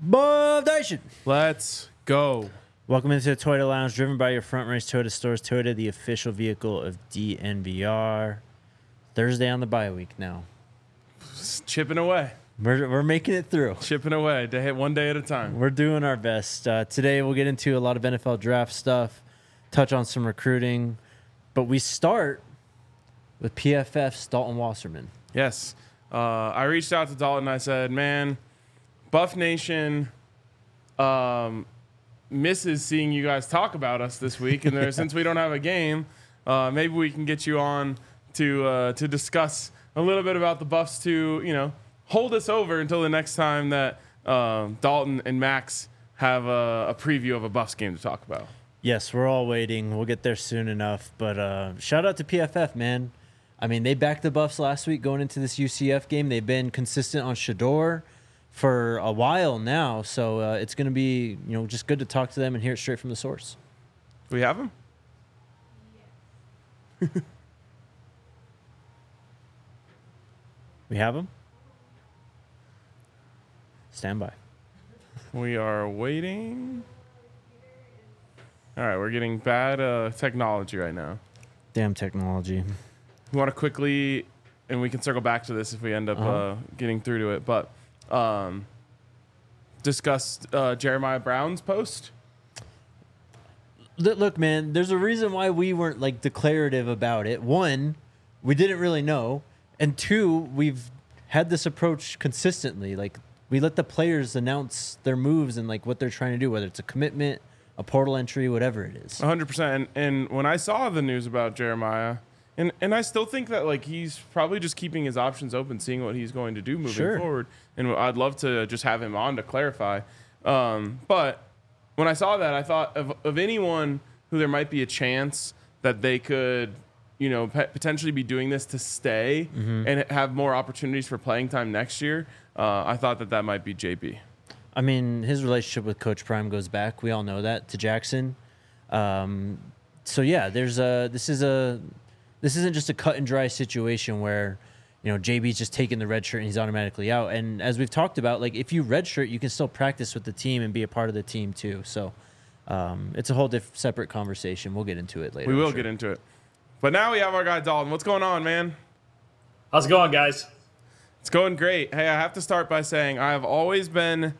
Buff Nation. Let's go. Welcome into the Toyota Lounge, driven by your front range Toyota stores. Toyota, the official vehicle of DNVR. Thursday on the bye week now. Just chipping away. We're making it through. Chipping away, one day at a time. We're doing our best. Today we'll get into a lot of NFL draft stuff, touch on some recruiting, but we start with PFF's Dalton Wasserman. Yes. I reached out to Dalton and I said, man, Buff Nation misses seeing you guys talk about us this week. And since we don't have a game, maybe we can get you on to discuss a little bit about the Buffs to, hold us over until the next time that Dalton and Max have a preview of a Buffs game to talk about. Yes, we're all waiting. We'll get there soon enough. But shout out to PFF, man. I mean, they backed the Buffs last week going into this UCF game. They've been consistent on Shedeur for a while now. So it's going to be, just good to talk to them and hear it straight from the source. Do we have him? We have him? Stand by. We are waiting. All right, we're getting bad technology right now. Damn technology. We want to quickly, and we can circle back to this if we end up getting through to it, but discuss Jeremiah Brown's post. Look, man, there's a reason why we weren't declarative about it. One, we didn't really know. And two, we've had this approach consistently. We let the players announce their moves and what they're trying to do, whether it's a commitment, a portal entry, whatever it is. 100%. And when I saw the news about Jeremiah, and I still think that he's probably just keeping his options open, seeing what he's going to do moving forward. And I'd love to just have him on to clarify. But when I saw that, I thought of anyone who there might be a chance that they could, potentially be doing this to stay and have more opportunities for playing time next year. I thought that might be JB. I mean, his relationship with Coach Prime goes back. We all know that, to Jackson. So yeah, this isn't just a cut and dry situation where, JB's just taking the red shirt and he's automatically out. And as we've talked about, if you red shirt, you can still practice with the team and be a part of the team too. So it's a whole separate conversation. We'll get into it later. We will get into it. But now we have our guy Dalton. What's going on, man? How's it going, guys? It's going great. Hey, I have to start by saying I have always been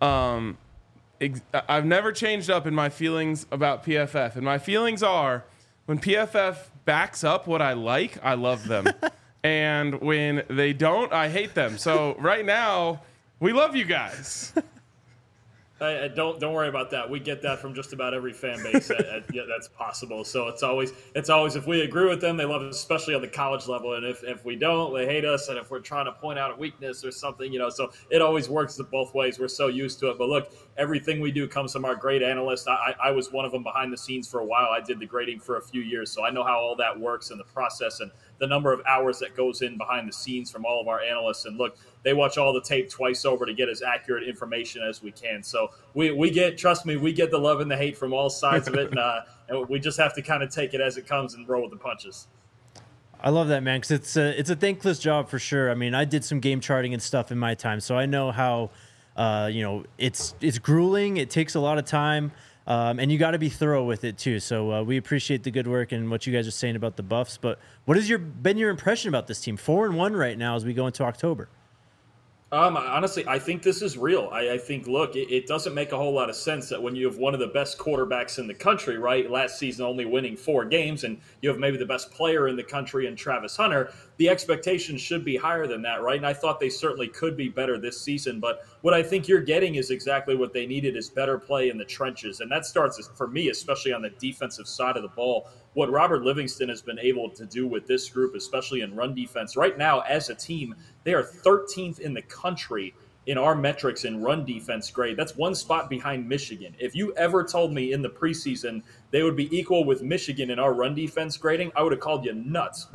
I've never changed up in my feelings about PFF. And my feelings are when PFF backs up what I like, I love them. And when they don't, I hate them. So right now, we love you guys. Don't worry about that. We get that from just about every fan base that's possible. So it's always if we agree with them, they love us, especially on the college level. And if we don't, they hate us. And if we're trying to point out a weakness or something, so it always works both ways. We're so used to it. But look, everything we do comes from our great analysts. I was one of them behind the scenes for a while. I did the grading for a few years, so I know how all that works and the process and the number of hours that goes in behind the scenes from all of our analysts. And look, they watch all the tape twice over to get as accurate information as we can. So we get the love and the hate from all sides of it. And we just have to kind of take it as it comes and roll with the punches. I love that, man, because it's a thankless job for sure. I mean, I did some game charting and stuff in my time, so I know how, it's grueling. It takes a lot of time. And you got to be thorough with it too. So we appreciate the good work and what you guys are saying about the Buffs. But what has been your impression about this team? 4-1 right now as we go into October. Honestly, I think this is real. I think, look, it doesn't make a whole lot of sense that when you have one of the best quarterbacks in the country, right, last season only winning 4 games, and you have maybe the best player in the country in Travis Hunter, the expectations should be higher than that, right? And I thought they certainly could be better this season. But what I think you're getting is exactly what they needed, is better play in the trenches. And that starts, for me, especially on the defensive side of the ball, what Robert Livingston has been able to do with this group, especially in run defense. Right now, as a team, they are 13th in the country in our metrics in run defense grade. That's one spot behind Michigan. If you ever told me in the preseason they would be equal with Michigan in our run defense grading, I would have called you nuts. But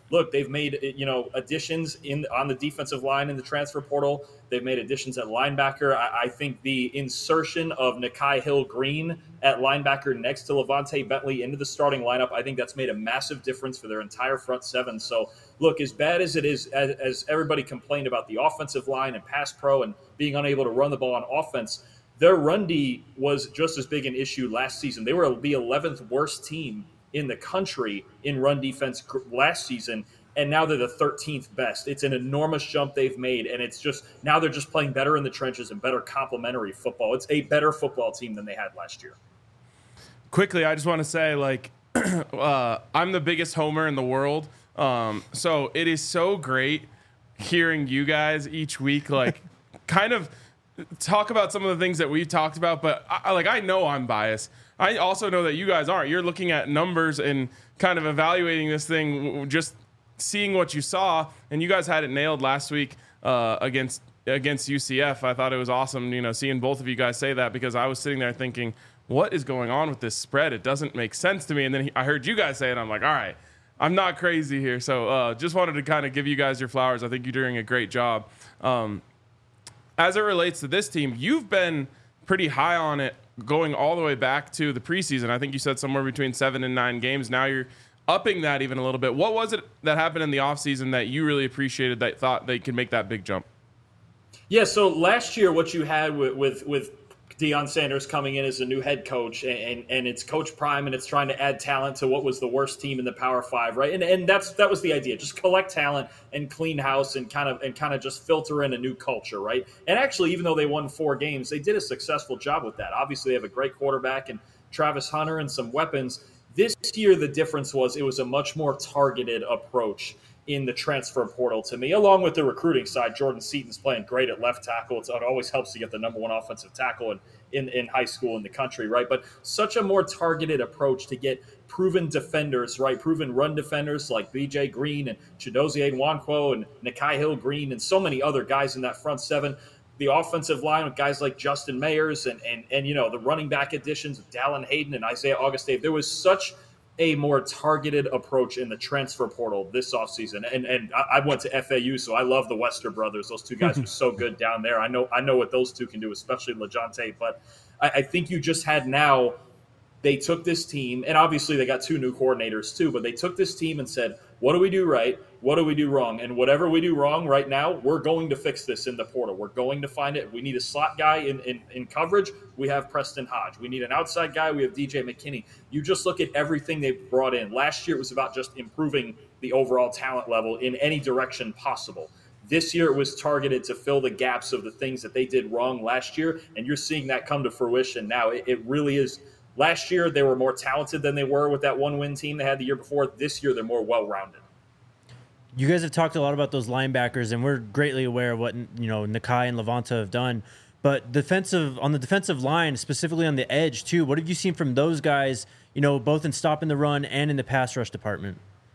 look, they've made, additions on the defensive line in the transfer portal. They've made additions at linebacker. I think the insertion of Nikhai Hill-Green at linebacker next to Levante Bentley into the starting lineup, I think that's made a massive difference for their entire front seven. So, look, as bad as it is, as everybody complained about the offensive line and pass pro and being unable to run the ball on offense, their run D was just as big an issue last season. They were the 11th worst team in the country in run defense last season, and now they're the 13th best. It's an enormous jump they've made, and it's just now they're just playing better in the trenches and better complementary football. It's a better football team than they had last year. Quickly, I just want to say, I'm the biggest homer in the world, so it is so great hearing you guys each week, kind of talk about some of the things that we've talked about, but I know I'm biased. I also know that you guys aren't. You're looking at numbers and kind of evaluating this thing, just seeing what you saw, and you guys had it nailed last week against UCF. I thought it was awesome, seeing both of you guys say that, because I was sitting there thinking, what is going on with this spread? It doesn't make sense to me. And then I heard you guys say it, and I'm like, all right, I'm not crazy here. So just wanted to kind of give you guys your flowers. I think you're doing a great job. As it relates to this team, you've been pretty high on it going all the way back to the preseason. I think you said somewhere between 7 and 9 games. Now you're upping that even a little bit. What was it that happened in the offseason that you really appreciated, that thought they could make that big jump? Yeah, so last year what you had with Deion Sanders coming in as a new head coach, and it's Coach Prime, and it's trying to add talent to what was the worst team in the Power Five, right? And that was the idea. Just collect talent and clean house and kind of just filter in a new culture, right? And actually, even though they won 4 games, they did a successful job with that. Obviously, they have a great quarterback and Travis Hunter and some weapons. This year, the difference was it was a much more targeted approach in the transfer portal to me, along with the recruiting side. Jordan Seaton's playing great at left tackle. It always helps to get the #1 offensive tackle in high school in the country, right? But such a more targeted approach to get proven defenders, right? Proven run defenders like B.J. Green and Chidozie Nwankwo and Nikhai Hill-Green and so many other guys in that front seven. The offensive line with guys like Justin Mayers and the running back additions of Dallin Hayden and Isaiah Augustave. There was such a more targeted approach in the transfer portal this offseason. And I went to FAU, so I love the Wester brothers. Those two guys are so good down there. I know what those two can do, especially LeJohntay. But I think you just had now, they took this team, and obviously they got 2 new coordinators too, but they took this team and said, what do we do right? What do we do wrong? And whatever we do wrong right now, we're going to fix this in the portal. We're going to find it. We need a slot guy in coverage. We have Preston Hodge. We need an outside guy. We have DJ McKinney. You just look at everything they brought in. Last year, it was about just improving the overall talent level in any direction possible. This year, it was targeted to fill the gaps of the things that they did wrong last year, and you're seeing that come to fruition now. It really is. Last year, they were more talented than they were with that 1-win team they had the year before. This year, they're more well-rounded. You guys have talked a lot about those linebackers, and we're greatly aware of what Nikhai and Levante have done. But on the defensive line, specifically on the edge too, what have you seen from those guys? Both in stopping the run and in the pass rush department.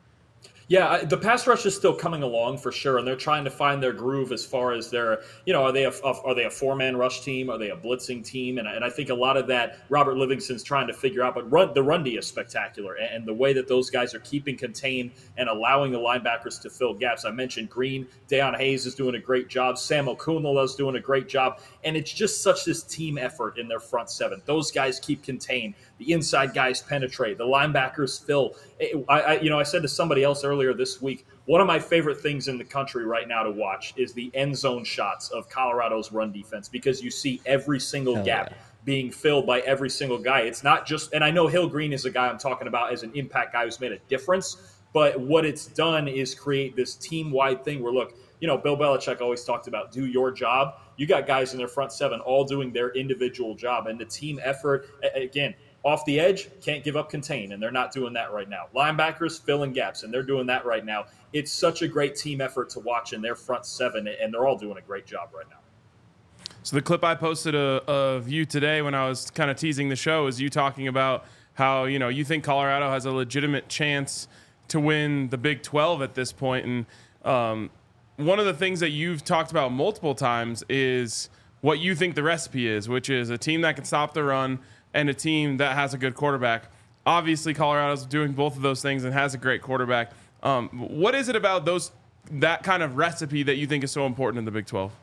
Yeah, the pass rush is still coming along for sure, and they're trying to find their groove as far as their, are they a 4-man rush team? Are they a blitzing team? And I think a lot of that Robert Livingston's trying to figure out. But the run D is spectacular, and the way that those guys are keeping contained and allowing the linebackers to fill gaps. I mentioned Green, Deion Hayes is doing a great job. Sam Okunlola is doing a great job, and it's just such this team effort in their front seven. Those guys keep contained. The inside guys penetrate. The linebackers fill. I said to somebody else earlier this week, one of my favorite things in the country right now to watch is the end zone shots of Colorado's run defense, because you see every single gap being filled by every single guy. It's not just, and I know Hill-Green is a guy I'm talking about as an impact guy who's made a difference, but what it's done is create this team-wide thing where, look, Bill Belichick always talked about do your job. You got guys in their front seven all doing their individual job, and the team effort, again, off the edge, can't give up contain, and they're not doing that right now. Linebackers filling gaps, and they're doing that right now. It's such a great team effort to watch in their front seven, and they're all doing a great job right now. So the clip I posted of you today when I was kind of teasing the show is you talking about how, you think Colorado has a legitimate chance to win the Big 12 at this point. And one of the things that you've talked about multiple times is what you think the recipe is, which is a team that can stop the run and a team that has a good quarterback. Obviously, Colorado's doing both of those things and has a great quarterback. What is it about that kind of recipe that you think is so important in the Big 12?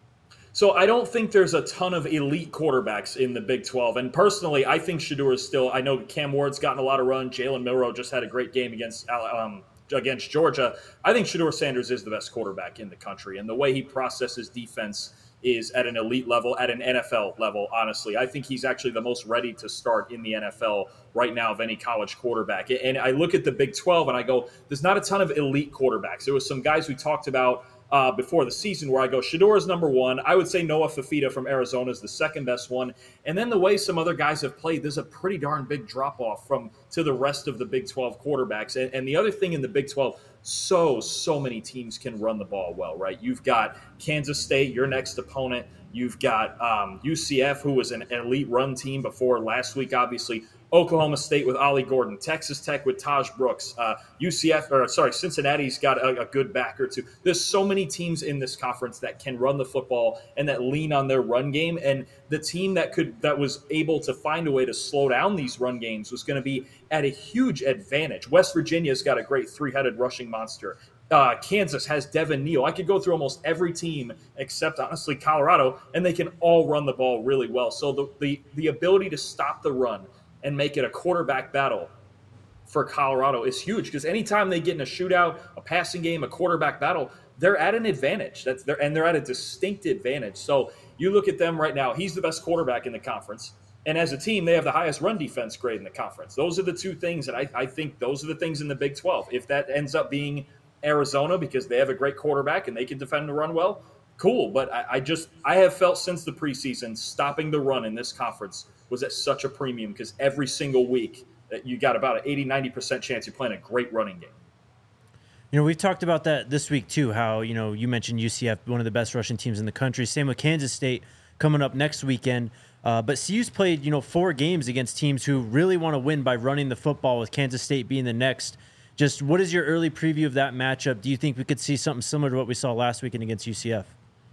So I don't think there's a ton of elite quarterbacks in the Big 12. And personally, I think Shedeur is still – I know Cam Ward's gotten a lot of run. Jalen Milroe just had a great game against Georgia. I think Shedeur Sanders is the best quarterback in the country. And the way he processes defense is at an elite level, at an NFL level, honestly. I think he's actually the most ready to start in the NFL right now of any college quarterback. And I look at the Big 12 and I go, there's not a ton of elite quarterbacks. There was some guys we talked about before the season where I go, Shedeur is number one. I would say Noah Fifita from Arizona is the second best one. And then the way some other guys have played, there's a pretty darn big drop-off to the rest of the Big 12 quarterbacks. And the other thing in the Big 12, so many teams can run the ball well, right? You've got Kansas State, your next opponent. You've got UCF, who was an elite run team before last week, obviously. Oklahoma State with Ollie Gordon, Texas Tech with Taj Brooks, Cincinnati's got a good back or two. There's so many teams in this conference that can run the football and that lean on their run game. And the team that was able to find a way to slow down these run games was going to be at a huge advantage. West Virginia's got a great three-headed rushing monster. Kansas has Devin Neal. I could go through almost every team except, honestly, Colorado, and they can all run the ball really well. So the ability to stop the run and make it a quarterback battle for Colorado is huge, because anytime they get in a shootout, a passing game, a quarterback battle, they're at an advantage. They're at a distinct advantage. So you look at them right now, he's the best quarterback in the conference. And as a team, they have the highest run defense grade in the conference. Those are the two things that I think those are the things in the Big 12. If that ends up being Arizona because they have a great quarterback and they can defend the run well, cool. But I have felt since the preseason stopping the run in this conference was at such a premium, because every single week that you got about an 80-90% chance you're playing a great running game. We've talked about that this week too, how, you mentioned UCF, one of the best rushing teams in the country. Same with Kansas State coming up next weekend. But CU's played, 4 games against teams who really want to win by running the football, with Kansas State being the next. Just what is your early preview of that matchup? Do you think we could see something similar to what we saw last weekend against UCF?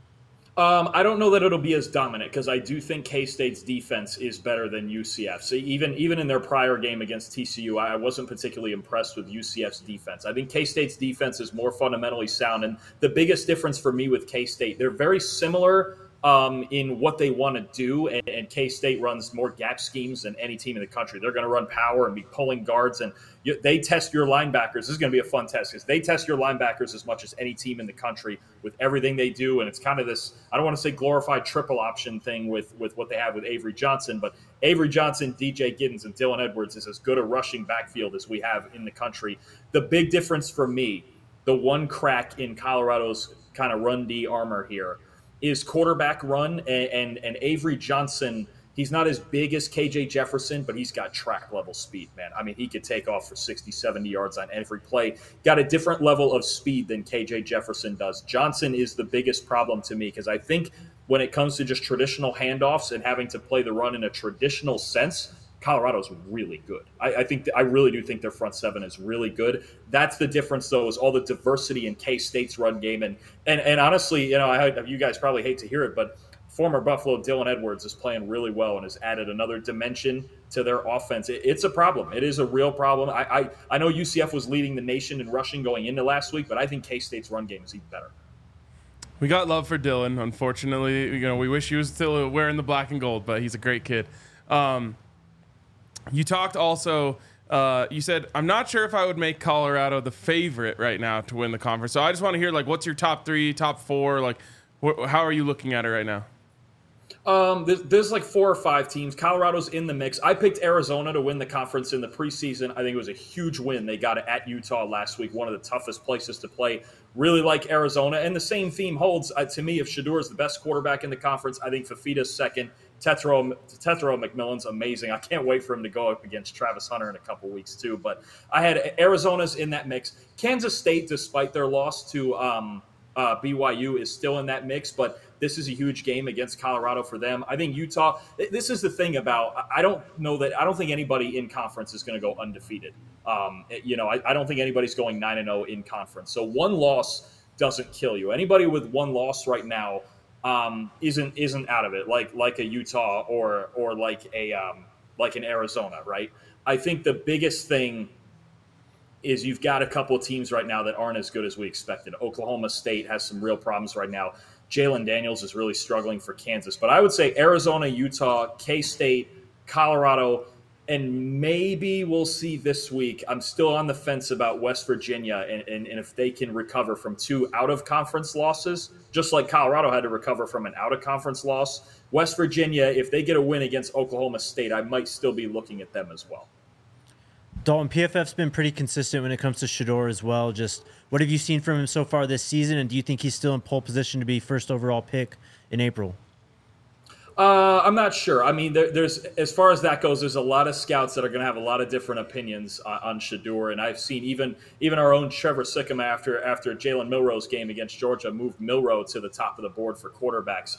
I don't know that it'll be as dominant, because I do think K-State's defense is better than UCF. So even in their prior game against TCU, I wasn't particularly impressed with UCF's defense. I think K-State's defense is more fundamentally sound. And the biggest difference for me with K-State, they're very similar in what they want to do, and K-State runs more gap schemes than any team in the country. They're going to run power and be pulling guards, and they test your linebackers. This is going to be a fun test, because they test your linebackers as much as any team in the country with everything they do. And it's kind of this, I don't want to say glorified triple option thing with what they have with Avery Johnson, but Avery Johnson, DJ Giddens, and Dylan Edwards is as good a rushing backfield as we have in the country. The big difference for me, the one crack in Colorado's kind of run D armor here, is quarterback run, and Avery Johnson, he's not as big as KJ Jefferson, but he's got track level speed, man. I mean, he could take off for 60, 70 yards on every play. Got a different level of speed than KJ Jefferson does. Johnson is the biggest problem to me, because I think when it comes to just traditional handoffs and having to play the run in a traditional sense, Colorado's really good. I really do think their front seven is really good. That's the difference, though, is all the diversity in K-State's run game. And honestly, you guys probably hate to hear it, but former Buffalo Dylan Edwards is playing really well and has added another dimension to their offense. It's a problem. It is a real problem. I know UCF was leading the nation in rushing going into last week, but I think K-State's run game is even better. We got love for Dylan. Unfortunately, we wish he was still wearing the black and gold, but he's a great kid. You talked also, you said, I'm not sure if I would make Colorado the favorite right now to win the conference. So I just want to hear, what's your top 3, top 4? How are you looking at it right now? There's 4 or 5 teams. Colorado's in the mix. I picked Arizona to win the conference in the preseason. I think it was a huge win. They got it at Utah last week, one of the toughest places to play. Really like Arizona. And the same theme holds to me. If Shedeur is the best quarterback in the conference, I think Fifita's second. Tetero McMillan's amazing. I can't wait for him to go up against Travis Hunter in a couple weeks too. But I had Arizona's in that mix. Kansas State, despite their loss to BYU, is still in that mix. But this is a huge game against Colorado for them. I think Utah. This is the thing about. I don't think anybody in conference is going to go undefeated. I don't think anybody's going 9-0 in conference. So one loss doesn't kill you. Anybody with one loss right now isn't out of it, like a Utah or like an Arizona, right? I think the biggest thing is you've got a couple of teams right now that aren't as good as we expected. Oklahoma State has some real problems right now. Jalen Daniels is really struggling for Kansas. But I would say Arizona, Utah, K-State, Colorado, and maybe we'll see this week. I'm still on the fence about West Virginia and if they can recover from 2 out-of-conference losses, just like Colorado had to recover from an out-of-conference loss. West Virginia, if they get a win against Oklahoma State, I might still be looking at them as well. Dalton, PFF's been pretty consistent when it comes to Shedeur as well. Just what have you seen from him so far this season, and do you think he's still in pole position to be first overall pick in April? I'm not sure. I mean, there's as far as that goes, there's a lot of scouts that are going to have a lot of different opinions on Shedeur, and I've seen even our own Trevor Sikkema after Jalen Milroe's game against Georgia moved Milroe to the top of the board for quarterbacks.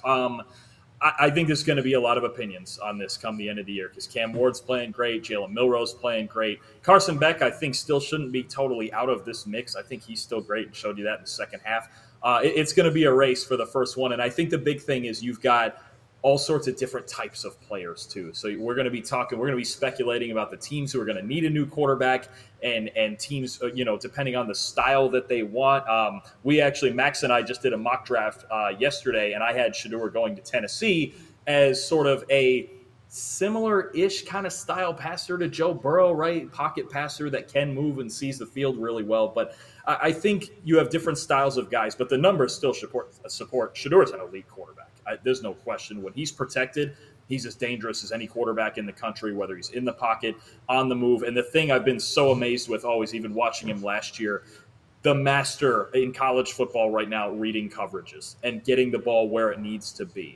I think there's going to be a lot of opinions on this come the end of the year because Cam Ward's playing great, Jalen Milroe's playing great. Carson Beck, I think, still shouldn't be totally out of this mix. I think he's still great and showed you that in the second half. It's going to be a race for the first one, and I think the big thing is you've got all sorts of different types of players too. So we're going to be speculating about the teams who are going to need a new quarterback and teams, depending on the style that they want. Max and I just did a mock draft yesterday, and I had Shedeur going to Tennessee as sort of a similar-ish kind of style passer to Joe Burrow, right? Pocket passer that can move and sees the field really well. But I think you have different styles of guys, but the numbers still support. Shedeur's an elite quarterback. There's no question. When he's protected, he's as dangerous as any quarterback in the country, whether he's in the pocket, on the move. And the thing I've been so amazed with always, even watching him last year, the master in college football right now, reading coverages and getting the ball where it needs to be.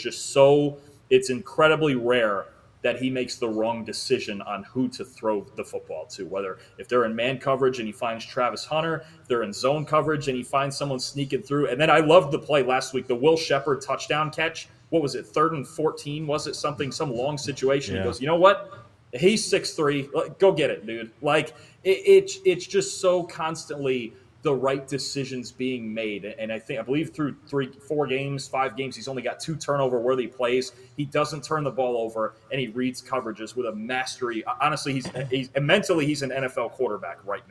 It's incredibly rare that he makes the wrong decision on who to throw the football to, whether if they're in man coverage and he finds Travis Hunter, if they're in zone coverage and he finds someone sneaking through. And then I loved the play last week, the Will Shepherd touchdown catch. What was it, 3rd and 14? Was it some long situation? Yeah. He goes, you know what? He's 6'3". Go get it, dude. It's just so constantly the right decisions being made. And I believe through 5 games, he's only got 2 turnover-worthy plays. He doesn't turn the ball over, and he reads coverages with a mastery. Honestly, he's mentally, he's an NFL quarterback right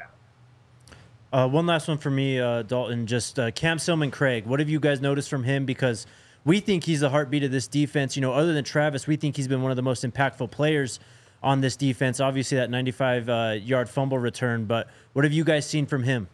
now. One last one for me, Dalton, just Cam Seelman-Craig. What have you guys noticed from him? Because we think he's the heartbeat of this defense. Other than Travis, we think he's been one of the most impactful players on this defense. Obviously, that 95-yard fumble return. But what have you guys seen from him?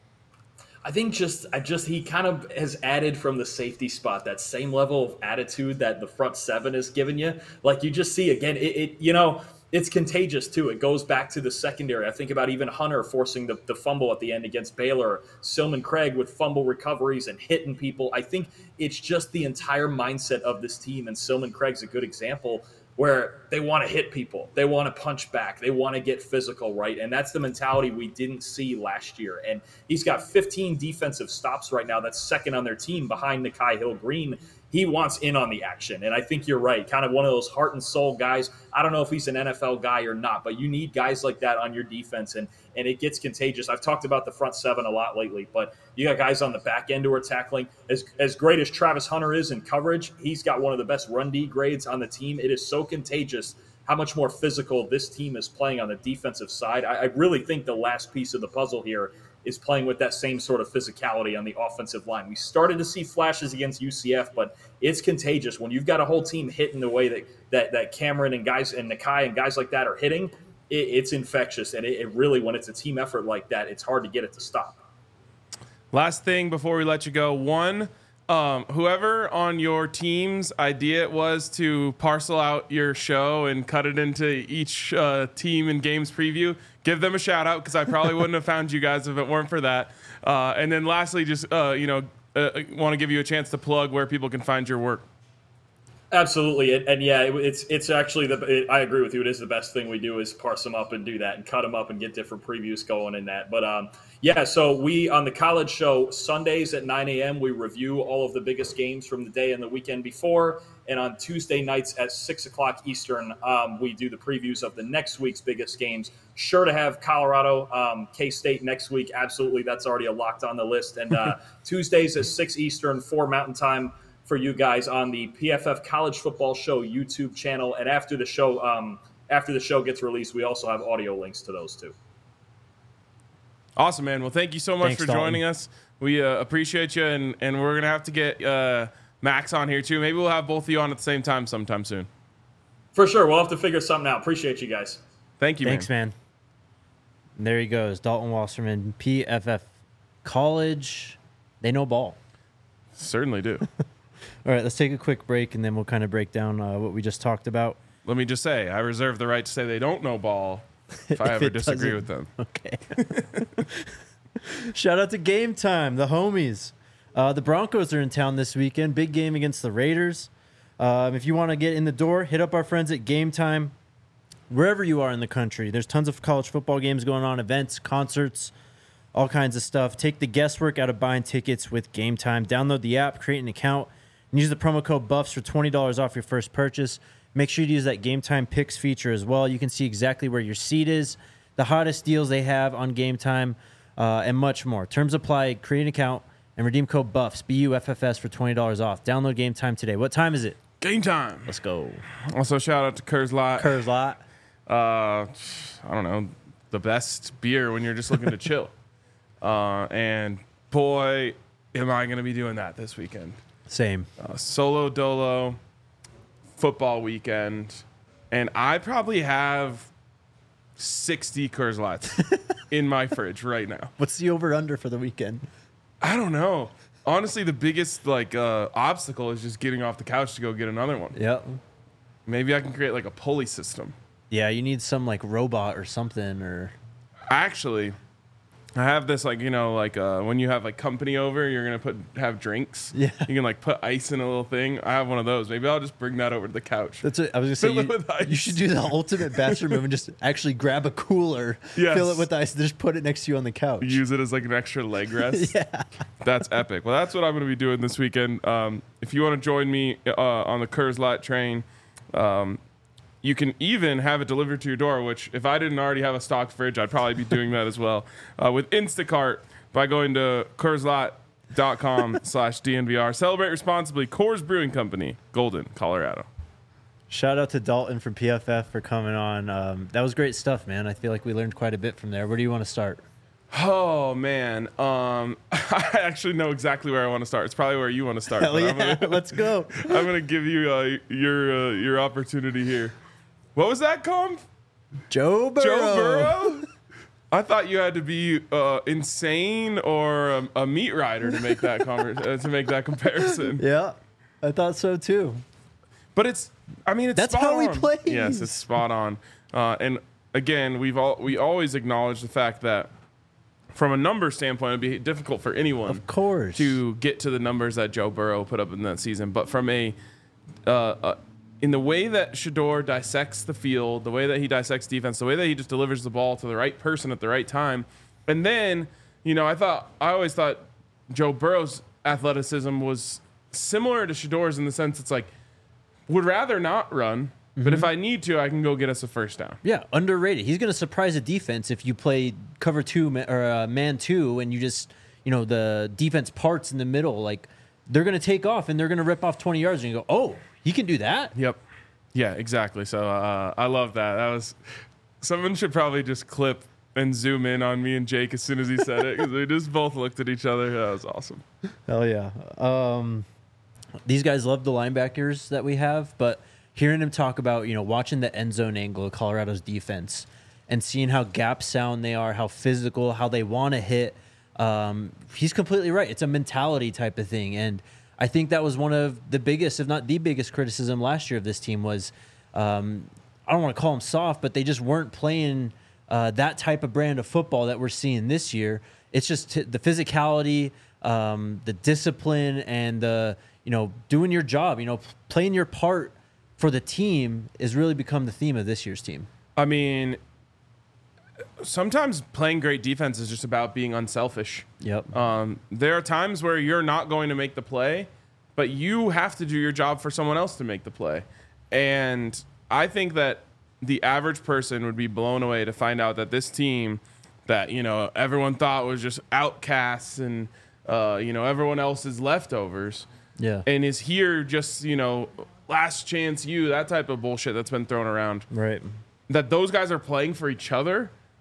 I think he kind of has added from the safety spot that same level of attitude that the front seven has given you. You just see again, it's contagious too. It goes back to the secondary. I think about even Hunter forcing the fumble at the end against Baylor, Seelman-Craig with fumble recoveries and hitting people. I think it's just the entire mindset of this team, and Seelman-Craig's a good example where they want to hit people. They want to punch back. They want to get physical, right? And that's the mentality we didn't see last year. And he's got 15 defensive stops right now. That's second on their team behind Nikhai Hill-Green. He wants in on the action. And I think you're right. Kind of one of those heart and soul guys. I don't know if he's an NFL guy or not, but you need guys like that on your defense. And it gets contagious. I've talked about the front seven a lot lately, but you got guys on the back end who are tackling. As great as Travis Hunter is in coverage, he's got one of the best run D grades on the team. It is so contagious how much more physical this team is playing on the defensive side. I really think the last piece of the puzzle here is playing with that same sort of physicality on the offensive line. We started to see flashes against UCF, but it's contagious. When you've got a whole team hitting the way that Cameron and guys and Nikhai and guys like that are hitting, it's infectious. And it really, when it's a team effort like that, it's hard to get it to stop. Last thing before we let you go. Whoever on your team's idea it was to parcel out your show and cut it into each team and games preview, give them a shout out because I probably wouldn't have found you guys if it weren't for that. And then lastly, just want to give you a chance to plug where people can find your work. Absolutely, and yeah, it's actually I agree with you. It is the best thing we do is parse them up and do that and cut them up and get different previews going in that. But yeah, so we on the college show Sundays at 9 a.m. we review all of the biggest games from the day and the weekend before, and on Tuesday nights at 6 o'clock Eastern we do the previews of the next week's biggest games. Sure to have Colorado, K-State next week. Absolutely, that's already locked on the list. And Tuesdays at 6 Eastern, 4 Mountain Time. For you guys on the PFF College Football Show YouTube channel. And after the show gets released, we also have audio links to those too. Awesome, man. Well, thank you so much Thanks, for Dalton. joining us. We appreciate you, and we're going to have to get Max on here, too. Maybe we'll have both of you on at the same time sometime soon. For sure. We'll have to figure something out. Appreciate you guys. Thank you, Thanks, man. And there he goes, Dalton Wasserman, PFF College. They know ball. Certainly do. All right, let's take a quick break, and then we'll kind of break down what we just talked about. Let me just say, I reserve the right to say they don't know ball if I ever disagree with them. Okay. Shout out to Game Time, the homies. The Broncos are in town this weekend. Big game against the Raiders. If you want to get in the door, hit up our friends at Game Time. Wherever you are in the country, there's tons of college football games going on, events, concerts, all kinds of stuff. Take the guesswork out of buying tickets with Game Time. Download the app, create an account, and use the promo code BUFFS for $20 off your first purchase. Make sure you use that Game Time Picks feature as well. You can see exactly where your seat is, the hottest deals they have on Game Time, and much more. Terms apply. Create an account and redeem code BUFFS, BUFFS, for $20 off. Download Game Time today. What time is it? Game time. Let's go. Also, shout out to Kerr's Lot. Curves lot. I don't know, the best beer when you're just looking to chill. And boy, am I going to be doing that this weekend. Same. Solo dolo football weekend, and I probably have 60 Kerr's Lots in my fridge right now. What's the over-under for the weekend? I don't know. Honestly, the biggest obstacle is just getting off the couch to go get another one. Yep. Maybe I can create like a pulley system. Yeah, you need some like robot or something, or Actually, I have this when you have like company over, you're gonna have drinks. Yeah. You can like put ice in a little thing. I have one of those. Maybe I'll just bring that over to the couch. that's what I was gonna say. Fill it with ice. You should do the ultimate bachelor move and just actually grab a cooler, Yes. fill it with ice, and just put it next to you on the couch. Use it as like an extra leg rest. Yeah. That's epic. Well, that's what I'm going to be doing this weekend. If you want to join me on the Kerr's Lot train, you can even have it delivered to your door, which if I didn't already have a stocked fridge, I'd probably be doing that as well. With Instacart by going to KerrsLot.com/DNVR. Celebrate responsibly. Coors Brewing Company, Golden, Colorado. Shout out to Dalton from PFF for coming on. That was great stuff, man. I feel like we learned quite a bit from there. Where do you want to start? Oh, man. I actually know exactly where I want to start. It's probably where you want to start. Hell yeah, let's go. I'm going to give you your opportunity here. What was that called? Joe Burrow. Joe Burrow? I thought you had to be insane or a meat rider to make that comparison. Yeah, I thought so too. But it's That's spot how he on. plays. Yes, it's spot on. And again, we always acknowledge the fact that from a number standpoint, it'd be difficult for anyone, Of course. to get to the numbers that Joe Burrow put up in that season. But from in the way that Shedeur dissects the field, the way that he dissects defense, the way that he just delivers the ball to the right person at the right time, and then I always thought Joe Burrow's athleticism was similar to Shedeur's in the sense it's like would rather not run. But if I need to, I can go get us a first down. Yeah, underrated. He's going to surprise a defense if you play cover two or man two, and you just the defense parts in the middle. Like they're going to take off and they're going to rip off 20 yards, and you go, oh, he can do that. Yep. Yeah, exactly. So I love that. That was someone should probably just clip and zoom in on me and Jake as soon as he said it because we just both looked at each other. That was awesome. Hell yeah. These guys love the linebackers that we have, but hearing him talk about, watching the end zone angle of Colorado's defense and seeing how gap sound they are, how physical, how they want to hit, he's completely right. It's a mentality type of thing. And I think that was one of the biggest, if not the biggest criticism last year of this team was, I don't want to call them soft, but they just weren't playing that type of brand of football that we're seeing this year. It's just the physicality, the discipline, and the, doing your job, playing your part for the team is really become the theme of this year's team. I mean, sometimes playing great defense is just about being unselfish. Yep. There are times where you're not going to make the play, but you have to do your job for someone else to make the play. And I think that the average person would be blown away to find out that this team that, everyone thought was just outcasts and, everyone else's leftovers. Yeah. And is here just, last chance that type of bullshit that's been thrown around. Right. That those guys are playing for each other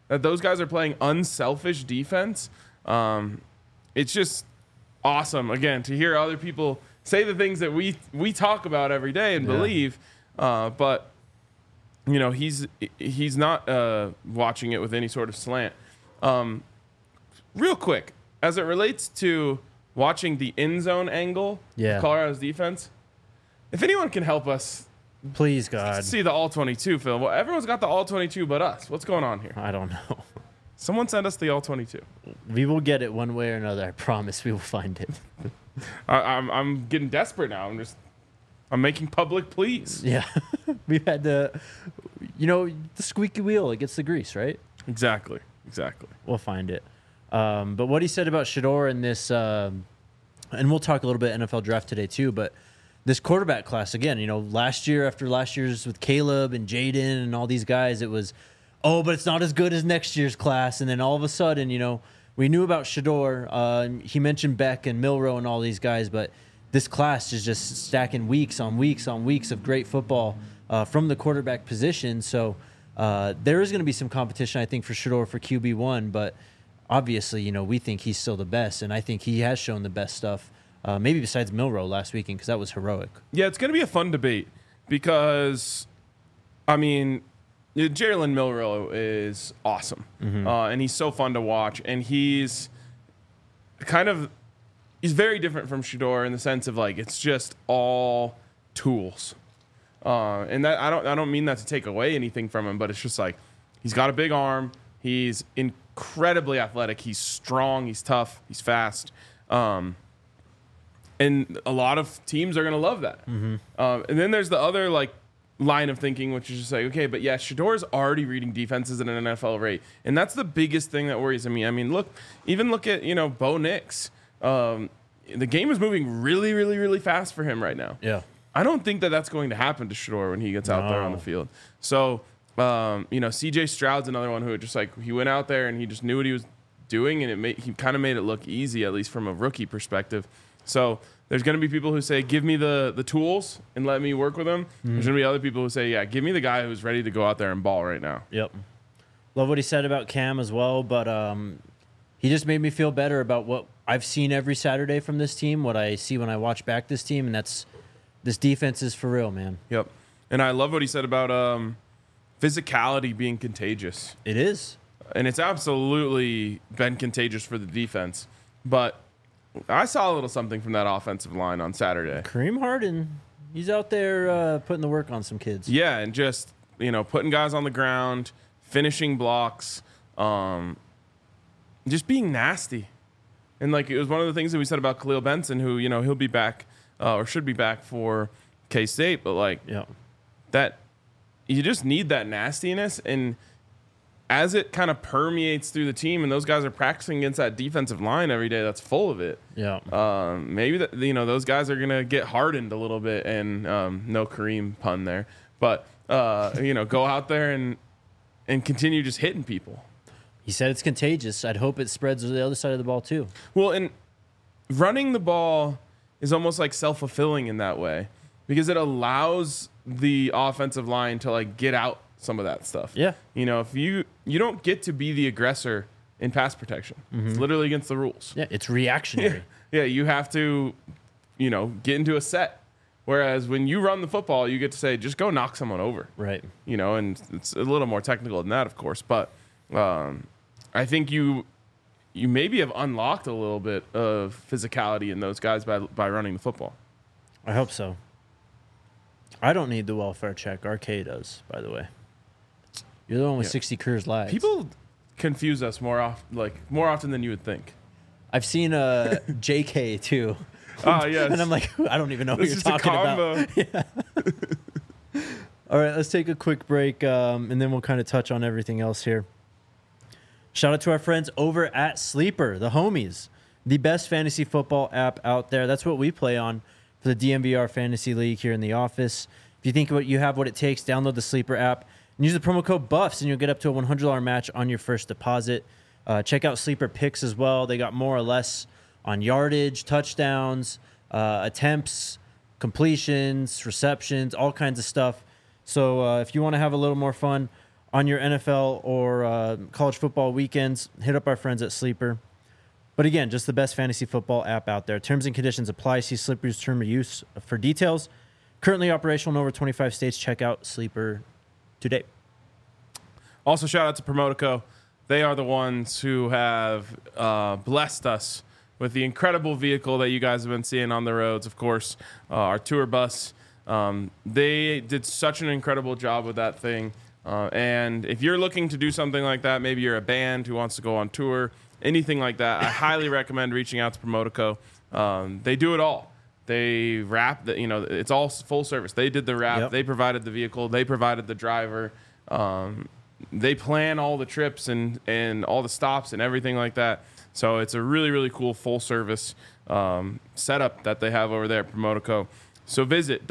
that those guys are playing unselfish defense. It's just awesome, again, to hear other people say the things that we talk about every day and believe. But, you know, he's not watching it with any sort of slant. Real quick, as it relates to watching the end zone angle of Colorado's defense, if anyone can help us, please, God, see the all-22 film. Well, everyone's got the all-22 but us. What's going on here? I don't know. Someone send us the all-22. We will get it one way or another. I promise we will find it. I'm getting desperate now. I'm making public pleas. Yeah. We've had the squeaky wheel. It gets the grease, right? Exactly. We'll find it. But what he said about Shedeur in this, and we'll talk a little bit NFL draft today too, but this quarterback class, again, you know, last year's with Caleb and Jaden and all these guys, it was, but it's not as good as next year's class. And then all of a sudden, you know, we knew about Shedeur. He mentioned Beck and Milroe and all these guys, but this class is just stacking weeks on weeks on weeks of great football from the quarterback position. So there is going to be some competition, I think, for Shedeur for QB1, but obviously, you know, we think he's still the best, and I think he has shown the best stuff, maybe besides Milroe last weekend, because that was heroic. Yeah, it's going to be a fun debate because, I mean, Jalen Milroe is awesome, and he's so fun to watch, and he's very different from Shedeur in the sense of, like, it's just all tools. And that I don't mean that to take away anything from him, but it's just like he's got a big arm, he's incredibly athletic, he's strong, he's tough, he's fast, and a lot of teams are going to love that. And then there's the other like line of thinking, which is just like, okay, but yeah, Shedeur's already reading defenses at an NFL rate, and that's the biggest thing that worries me. I mean, look at, you know, Bo Nix. The game is moving really, really, really fast for him right now. Yeah. I don't think that that's going to happen to Shedeur when he gets out there on the field. So, you know, CJ Stroud's another one who just like, he went out there and he just knew what he was doing, and he kind of made it look easy, at least from a rookie perspective. So there's going to be people who say, give me the tools and let me work with them. There's going to be other people who say, yeah, give me the guy who's ready to go out there and ball right now. Yep. Love what he said about Cam as well, but he just made me feel better about what I've seen every Saturday from this team, what I see when I watch back this team, and that's this defense is for real, man. Yep. And I love what he said about physicality being contagious. It is. And it's absolutely been contagious for the defense. But I saw a little something from that offensive line on Saturday. Kareem Harden, he's out there putting the work on some kids. Yeah, and just, you know, putting guys on the ground, finishing blocks, just being nasty. And, like, it was one of the things that we said about Khalil Benson, who, you know, he'll be back or should be back for K-State. But, like, that you just need that nastiness. And as it kind of permeates through the team and those guys are practicing against that defensive line every day that's full of it, maybe that, you know, those guys are going to get hardened a little bit. And no Kareem pun there. But, you know, go out there and continue just hitting people. He said it's contagious. I'd hope it spreads to the other side of the ball, too. Well, and running the ball is almost like self-fulfilling in that way because it allows the offensive line to, like, get out some of that stuff. Yeah. You know, if you don't get to be the aggressor in pass protection. It's literally against the rules. Yeah, it's reactionary. Yeah, you have to, you know, get into a set. Whereas when you run the football, you get to say, just go knock someone over. Right. You know, and it's a little more technical than that, of course. But I think you maybe have unlocked a little bit of physicality in those guys by running the football. I hope so. I don't need the welfare check. RK does, by the way. You're the one with 60 careers lives. People confuse us more often than you would think. I've seen JK too. Oh, yes. And I'm like, I don't even know what you're talking about. Yeah. All right, let's take a quick break, and then we'll kind of touch on everything else here. Shout out to our friends over at Sleeper, the homies, the best fantasy football app out there. That's what we play on for the DMVR Fantasy League here in the office. If you think you have what it takes, download the Sleeper app and use the promo code BUFFS, and you'll get up to a $100 match on your first deposit. Check out Sleeper Picks as well. They got more or less on yardage, touchdowns, attempts, completions, receptions, all kinds of stuff. So if you want to have a little more fun on your NFL or college football weekends, hit up our friends at Sleeper. But again, just the best fantasy football app out there. Terms and conditions apply. See Sleeper's term of use for details. Currently operational in over 25 states. Check out Sleeper today. Also, shout out to Promotico. They are the ones who have blessed us with the incredible vehicle that you guys have been seeing on the roads. Of course, our tour bus. They did such an incredible job with that thing. And if you're looking to do something like that, maybe you're a band who wants to go on tour, anything like that, I highly recommend reaching out to Promotico. They do it all. They wrap, it's all full service. They did the wrap. Yep. They provided the vehicle. They provided the driver. They plan all the trips and all the stops and everything like that. So it's a really, really cool full service setup that they have over there at Promotico. So visit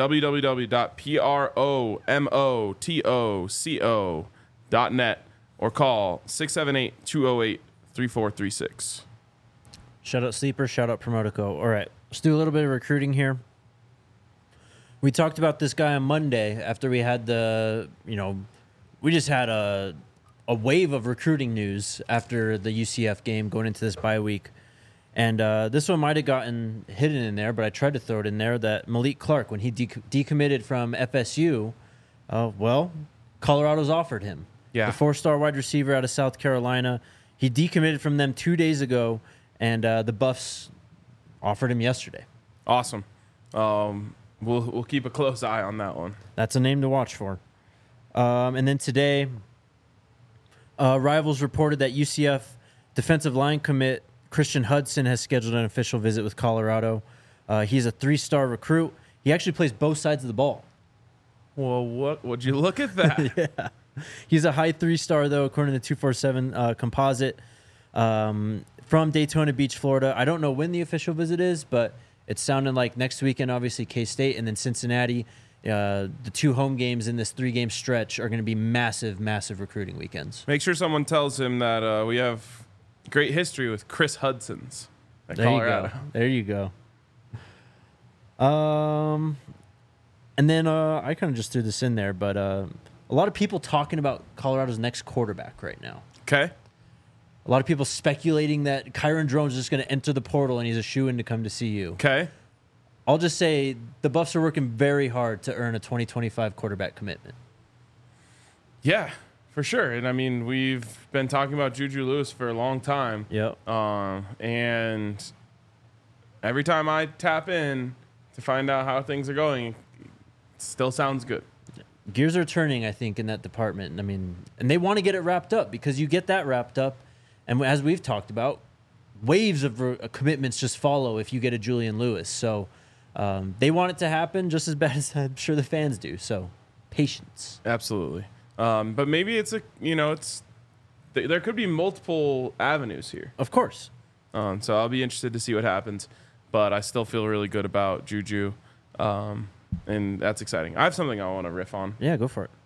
www.promotoco.net or call 678-208-3436. Shout out Sleeper, shout out Promotico. All right, let's do a little bit of recruiting here. We talked about this guy on Monday after we had we just had a wave of recruiting news after the UCF game going into this bye week. And this one might have gotten hidden in there, but I tried to throw it in there that Malik Clark, when he decommitted from FSU, Colorado's offered him. Yeah. The 4-star wide receiver out of South Carolina. He decommitted from them 2 days ago, and the Buffs offered him yesterday. Awesome. We'll keep a close eye on that one. That's a name to watch for. And then today, Rivals reported that UCF defensive line commit Christian Hudson has scheduled an official visit with Colorado. He's a 3-star recruit. He actually plays both sides of the ball. Well, would you look at that? Yeah. He's a high 3-star, though, according to the 247 composite. From Daytona Beach, Florida. I don't know when the official visit is, but it's sounding like next weekend, obviously, K-State, and then Cincinnati. The 2 home games in this 3-game stretch are going to be massive, massive recruiting weekends. Make sure someone tells him that we have great history with Chris Hudson's at Colorado. There you go. And then I kind of just threw this in there, but a lot of people talking about Colorado's next quarterback right now. Okay. A lot of people speculating that Kyron Drones is just going to enter the portal and he's a shoo-in to come to CU. Okay. I'll just say the Buffs are working very hard to earn a 2025 quarterback commitment. Yeah, for sure. And I mean, we've been talking about Juju Lewis for a long time. Yep. And every time I tap in to find out how things are going, it still sounds good. Gears are turning, I think, in that department. I mean, and they want to get it wrapped up because you get that wrapped up, and as we've talked about, waves of commitments just follow if you get a Julian Lewis. So they want it to happen just as bad as I'm sure the fans do. So patience. Absolutely. But maybe there could be multiple avenues here. Of course. So I'll be interested to see what happens. But I still feel really good about Juju. And that's exciting. I have something I want to riff on. Yeah, go for it.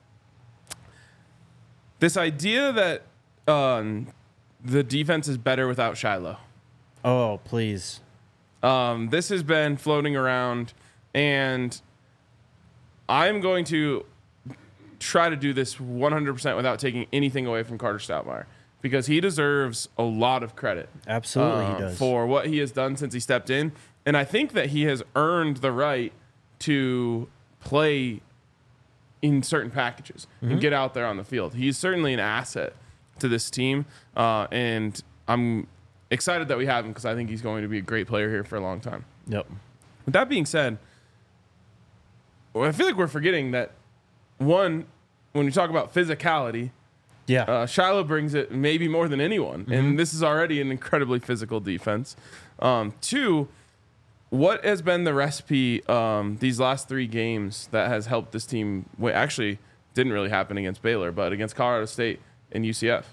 This idea that the defense is better without Shiloh. Oh, please. This has been floating around, and I'm going to try to do this 100% without taking anything away from Carter Stoutmire, because he deserves a lot of credit. Absolutely, he does. For what he has done since he stepped in. And I think that he has earned the right to play in certain packages and get out there on the field. He's certainly an asset to this team, and I'm excited that we have him because I think he's going to be a great player here for a long time. Yep. With that being said, I feel like we're forgetting that, one, when we talk about physicality, Shiloh brings it maybe more than anyone, and this is already an incredibly physical defense. 2, what has been the recipe these last 3 games that has helped this team? Actually, didn't really happen against Baylor, but against Colorado State and UCF.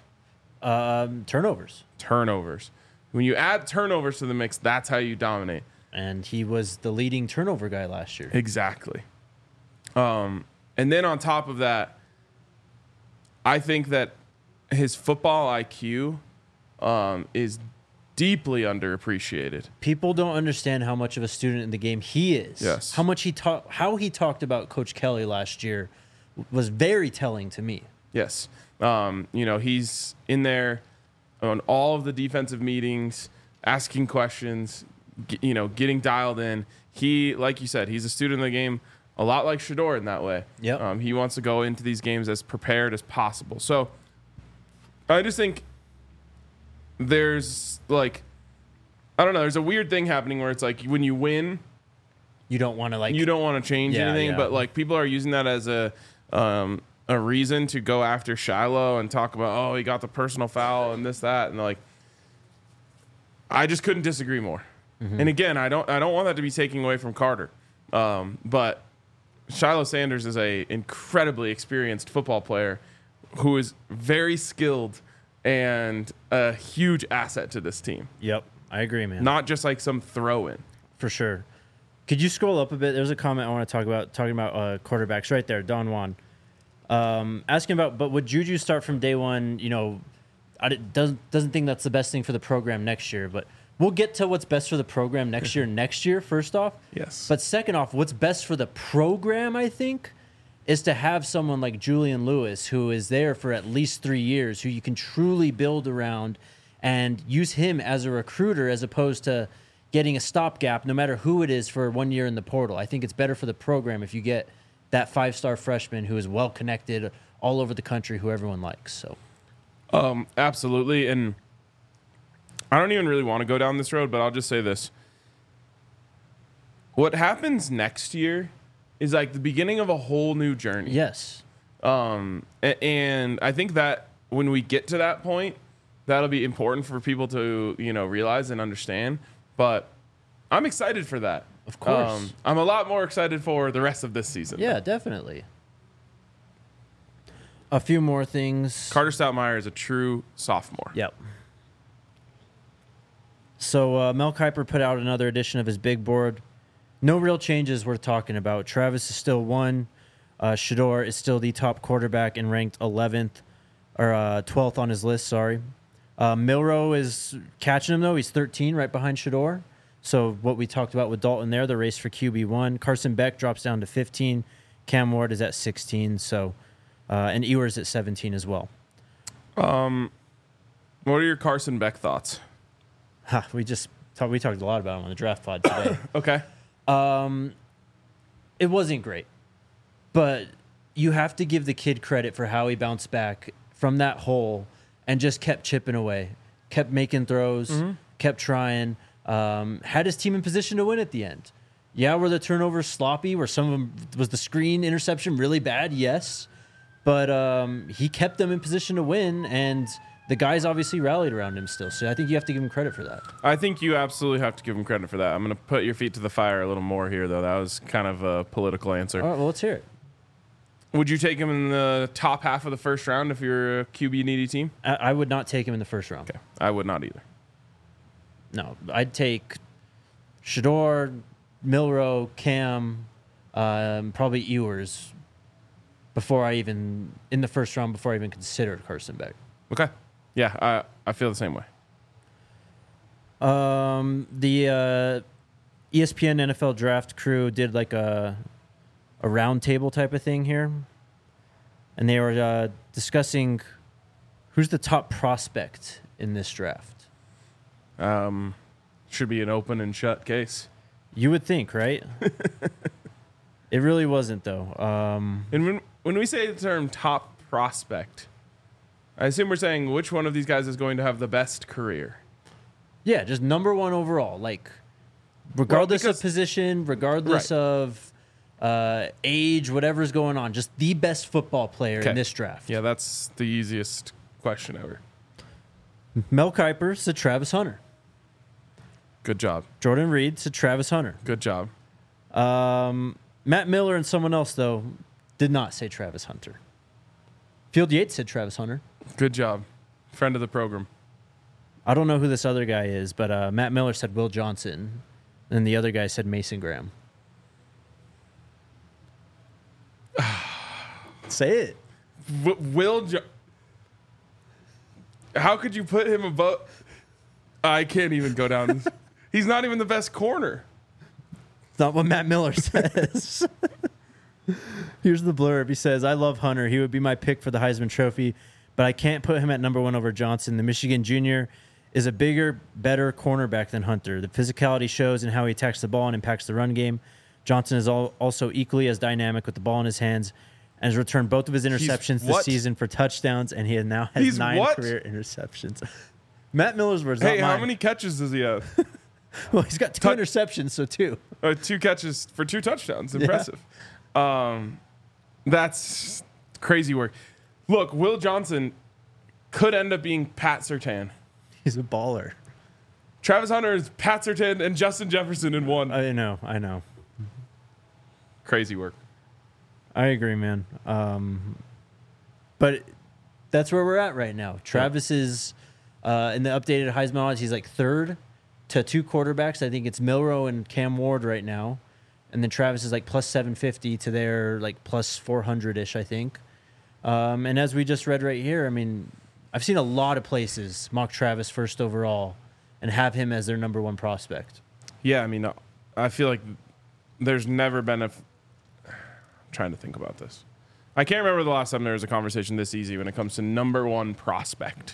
Turnovers. When you add turnovers to the mix, that's how you dominate. And he was the leading turnover guy last year. Exactly. And then on top of that, I think that his football IQ is deeply underappreciated. People don't understand how much of a student in the game he is. Yes. How he talked about Coach Kelly last year was very telling to me. Yes. He's in there on all of the defensive meetings, asking questions, getting dialed in. He, like you said, he's a student of the game, a lot like Shedeur in that way. Yep. He wants to go into these games as prepared as possible. So I just think there's there's a weird thing happening where it's like when you win, you don't want to you don't want to change anything, yeah. but like people are using that as a reason to go after Shiloh and talk about, he got the personal foul and this, that, and like I just couldn't disagree more. Mm-hmm. And again, I don't want that to be taken away from Carter. But Shiloh Sanders is a incredibly experienced football player who is very skilled and a huge asset to this team. Yep, I agree, man. Not just like some throw-in. For sure. Could you scroll up a bit? There's a comment I want to talk about, talking about quarterbacks right there, Don Juan. Asking about, but would Juju start from day one? Doesn't think that's the best thing for the program next year, but we'll get to what's best for the program next year, first off. Yes. But second off, what's best for the program, I think, is to have someone like Julian Lewis, who is there for at least 3 years, who you can truly build around and use him as a recruiter as opposed to getting a stopgap, no matter who it is, for 1 year in the portal. I think it's better for the program if you get that 5-star freshman who is well connected all over the country, who everyone likes. So, absolutely. And I don't even really want to go down this road, but I'll just say this. What happens next year is like the beginning of a whole new journey. Yes. And I think that when we get to that point, that'll be important for people to, realize and understand. But I'm excited for that. Of course. I'm a lot more excited for the rest of this season. Yeah, definitely. A few more things. Carter Stoutmeyer is a true sophomore. Yep. So Mel Kiper put out another edition of his big board. No real changes worth talking about. Travis is still 1. Shedeur is still the top quarterback and ranked 11th or 12th on his list. Sorry. Milroe is catching him though. He's 13, right behind Shedeur. So what we talked about with Dalton there, the race for QB1. Carson Beck drops down to 15. Cam Ward is at 16. So, and Ewers at 17 as well. What are your Carson Beck thoughts? We talked a lot about him on the draft pod today. Okay. It wasn't great, but you have to give the kid credit for how he bounced back from that hole and just kept chipping away, kept making throws, kept trying, had his team in position to win at the end. Yeah, were the turnovers sloppy? Were some of them, was the screen interception really bad? Yes, but he kept them in position to win, and the guys obviously rallied around him still. So I think you have to give him credit for that. I think you absolutely have to give him credit for that. I'm going to put your feet to the fire a little more here, though. That was kind of a political answer. All right, well, let's hear it. Would you take him in the top half of the first round if you're a QB needy team? I would not take him in the first round. Okay, I would not either. No, I'd take Shedeur, Milroe, Cam, probably Ewers in the first round before I even considered Carson Beck. Okay. Yeah, I feel the same way. The ESPN NFL draft crew did like a round table type of thing here, and they were discussing who's the top prospect in this draft. Should be an open and shut case. You would think, right? It really wasn't, though. And when we say the term top prospect, I assume we're saying which one of these guys is going to have the best career. Yeah, just number one overall. Like, regardless of position, regardless of age, whatever's going on, just the best football player in this draft. Yeah, that's the easiest question ever. Mel Kiper said Travis Hunter. Good job. Jordan Reed said Travis Hunter. Good job. Matt Miller and someone else, though, did not say Travis Hunter. Field Yates said Travis Hunter. Good job. Friend of the program. I don't know who this other guy is, but Matt Miller said Will Johnson, and the other guy said Mason Graham. Say it. How could you put him above? I can't even go down. He's not even the best corner. It's not what Matt Miller says. Here's the blurb. He says, I love Hunter. He would be my pick for the Heisman Trophy, but I can't put him at number 1 over Johnson. The Michigan junior is a bigger, better cornerback than Hunter. The physicality shows in how he attacks the ball and impacts the run game. Johnson is also equally as dynamic with the ball in his hands and has returned both of his interceptions this season for touchdowns, and he now has 9 career interceptions. Matt Miller's words. Hey, how many catches does he have? Well, he's got 2 interceptions, so 2. 2 catches for 2 touchdowns. Impressive. Yeah. That's crazy work. Look, Will Johnson could end up being Pat Surtain. He's a baller. Travis Hunter is Pat Surtain and Justin Jefferson in one. I know. Crazy work. I agree, man. But that's where we're at right now. Travis is in the updated Heisman odds. He's like 3rd to 2 quarterbacks. I think it's Milroe and Cam Ward right now. And then Travis is like plus 750 to their like plus 400-ish, I think. And as we just read right here, I mean, I've seen a lot of places mock Travis 1st overall and have him as their number 1 prospect. Yeah, I mean, I feel like there's never been I'm trying to think about this. I can't remember the last time there was a conversation this easy when it comes to number 1 prospect.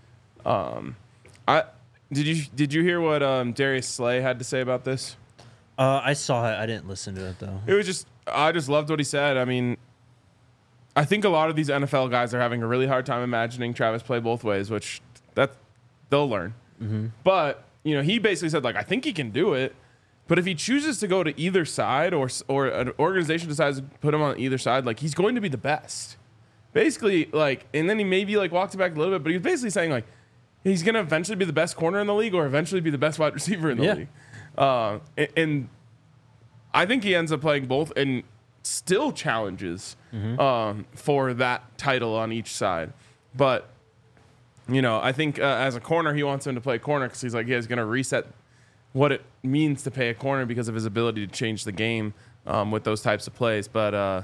Did you hear what Darius Slay had to say about this? I saw it. I didn't listen to it, though. I just loved what he said. I mean, I think a lot of these NFL guys are having a really hard time imagining Travis play both ways, which they'll learn. Mm-hmm. But, he basically said, like, I think he can do it. But if he chooses to go to either side or an organization decides to put him on either side, like, he's going to be the best. Basically, like, and then he maybe, like, walked it back a little bit, but he's basically saying, like, he's going to eventually be the best corner in the league or eventually be the best wide receiver in the league. And I think he ends up playing both and still challenges for that title on each side. But, I think as a corner, he wants him to play corner because he's like, he's going to reset what it means to play a corner because of his ability to change the game with those types of plays. But,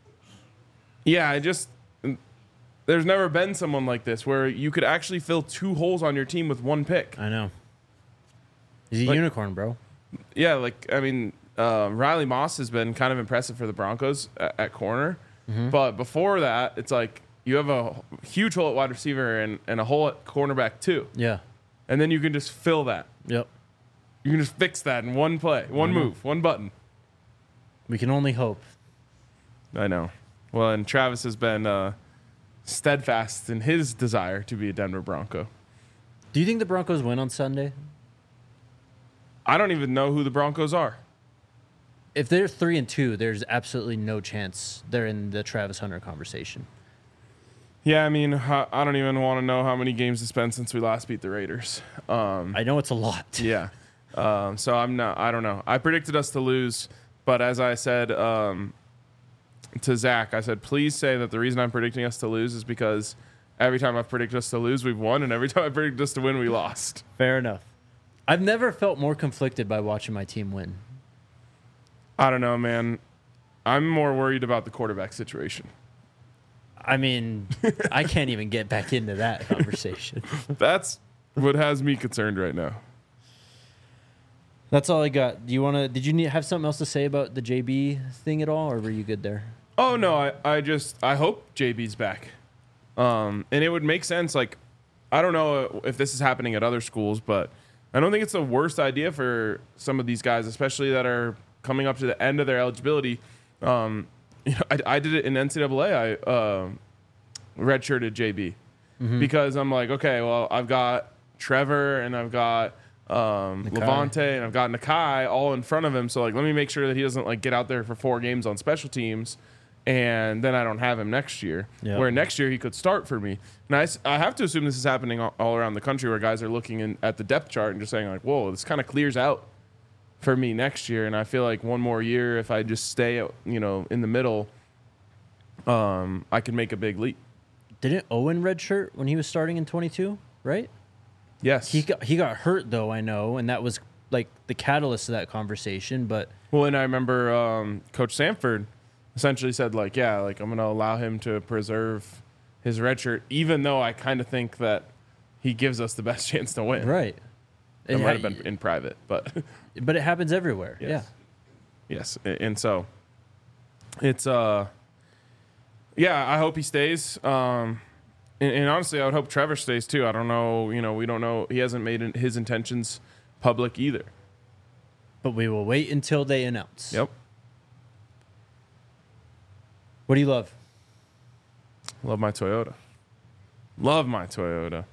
there's never been someone like this where you could actually fill 2 holes on your team with 1 pick. I know. He's a unicorn, bro. Yeah, Riley Moss has been kind of impressive for the Broncos at corner. Mm-hmm. But before that, it's like you have a huge hole at wide receiver and a hole at cornerback too. Yeah. And then you can just fill that. Yep. You can just fix that in 1 play, 1 move, 1 button. We can only hope. I know. Well, and Travis has been steadfast in his desire to be a Denver Bronco. Do you think the Broncos win on Sunday? I don't even know who the Broncos are. If they're 3-2, there's absolutely no chance they're in the Travis Hunter conversation. Yeah, I mean, I don't even want to know how many games it's been since we last beat the Raiders. I know it's a lot. Yeah. So I don't know. I predicted us to lose, but as I said to Zach, I said, please say that the reason I'm predicting us to lose is because every time I've predicted us to lose, we've won, and every time I predicted us to win, we lost. Fair enough. I've never felt more conflicted by watching my team win. I don't know, man. I'm more worried about the quarterback situation. I mean, I can't even get back into that conversation. That's what has me concerned right now. That's all I got. Did you have something else to say about the JB thing at all, or were you good there? Oh, no, I hope JB's back. And it would make sense. Like, I don't know if this is happening at other schools, but I don't think it's the worst idea for some of these guys, especially that are coming up to the end of their eligibility. I did it in NCAA. I redshirted JB because I'm like, okay, well, I've got Trevor and I've got Levante and I've got Nakai all in front of him. So like, let me make sure that he doesn't like get out there for 4 games on special teams, and then I don't have him next year. Yep. Where next year he could start for me. And I have to assume this is happening all around the country, where guys are looking at the depth chart and just saying like, whoa, this kind of clears out for me next year. And I feel like one more year, if I just stay, in the middle, I can make a big leap. Didn't Owen redshirt when he was starting in 22, right? Yes. He got hurt, though, I know, and that was like the catalyst of that conversation. But well, and I remember Coach Sanford essentially said, like, yeah, like I'm going to allow him to preserve his redshirt, even though I kind of think that he gives us the best chance to win. Right. It might have been in private, but but it happens everywhere. Yes. Yeah. Yes, and so it's Yeah, I hope he stays. And honestly, I would hope Trevor stays too. I don't know. We don't know. He hasn't made his intentions public either. But we will wait until they announce. Yep. What do you love? Love my Toyota. Love my Toyota.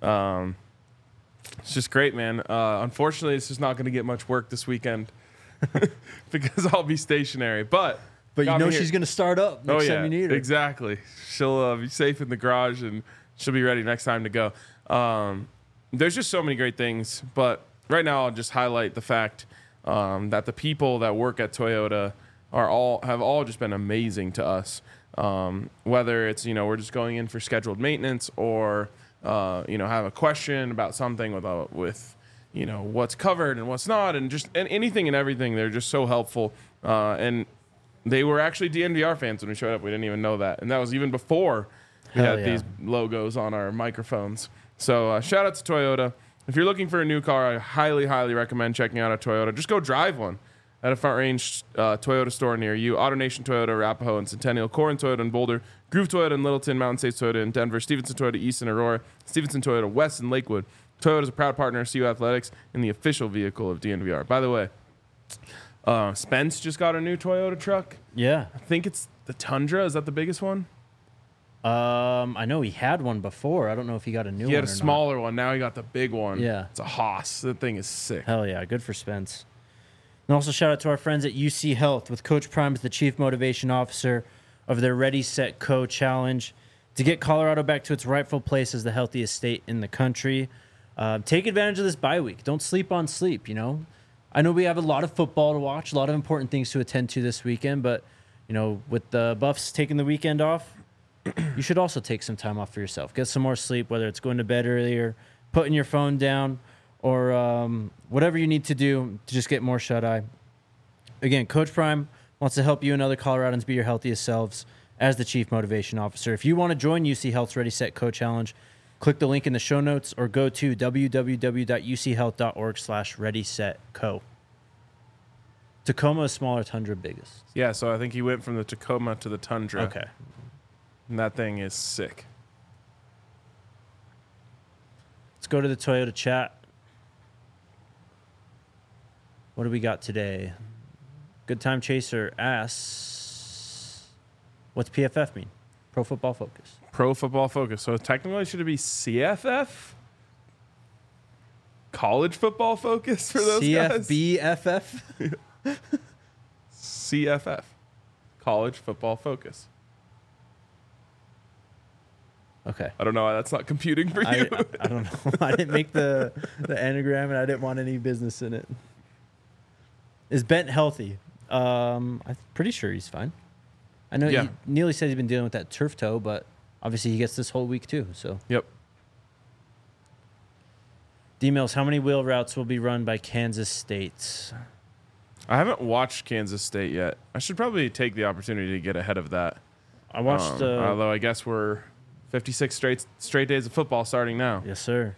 It's just great, man. Unfortunately, it's just not going to get much work this weekend because I'll be stationary. But you know she's going to start up next time you need her. Exactly. She'll be safe in the garage, and she'll be ready next time to go. There's just so many great things. But right now, I'll just highlight the fact that the people that work at Toyota have all just been amazing to us. Whether it's, we're just going in for scheduled maintenance or, have a question about something with what's covered and what's not, and anything and everything. They're just so helpful. And they were actually DNVR fans when we showed up. We didn't even know that. And that was even before we had these logos on our microphones. So shout out to Toyota. If you're looking for a new car, I highly, highly recommend checking out a Toyota. Just go drive one at a Front Range Toyota store near you. AutoNation Toyota, Arapahoe and Centennial, Corin Toyota in Boulder, Groove Toyota in Littleton, Mountain States Toyota in Denver, Stevenson Toyota East in Aurora, Stevenson Toyota West in Lakewood. Toyota is a proud partner of CU Athletics and the official vehicle of DNVR. By the way, Spence just got a new Toyota truck. Yeah. I think it's the Tundra. Is that the biggest one? I know he had one before. I don't know if he got a new one. He had a smaller one. Now he got the big one. Yeah. It's a Haas. That thing is sick. Hell yeah. Good for Spence. And also shout out to our friends at UC Health with Coach Prime as the Chief Motivation Officer of their Ready, Set, Co challenge to get Colorado back to its rightful place as the healthiest state in the country. Take advantage of this bye week. Don't sleep on sleep, I know we have a lot of football to watch, a lot of important things to attend to this weekend, but, with the Buffs taking the weekend off, you should also take some time off for yourself. Get some more sleep, whether it's going to bed earlier, putting your phone down, or whatever you need to do to just get more shut-eye. Again, Coach Prime wants to help you and other Coloradans be your healthiest selves as the Chief Motivation Officer. If you want to join UC Health's Ready, Set, Co challenge, click the link in the show notes or go to www.uchealth.org/readysetco. Tacoma is smaller, Tundra biggest. Yeah, so I think he went from the Tacoma to the Tundra. Okay. And that thing is sick. Let's go to the Toyota chat. What do we got today? Good Time Chaser asks, what's PFF mean? Pro Football Focus. Pro Football Focus. So technically, should it be CFF? College Football Focus for those guys? CFBFF? CFF. College Football Focus. Okay. I don't know why that's not computing for you. I don't know. I didn't make the anagram, and I didn't want any business in it. Is Bent healthy? I'm pretty sure he's fine. I know Neely said he's been dealing with that turf toe, but obviously he gets this whole week too. So. Yep. D-Mills, how many wheel routes will be run by Kansas State? I haven't watched Kansas State yet. I should probably take the opportunity to get ahead of that. I watched. Although I guess we're 56 straight days of football starting now. Yes, sir.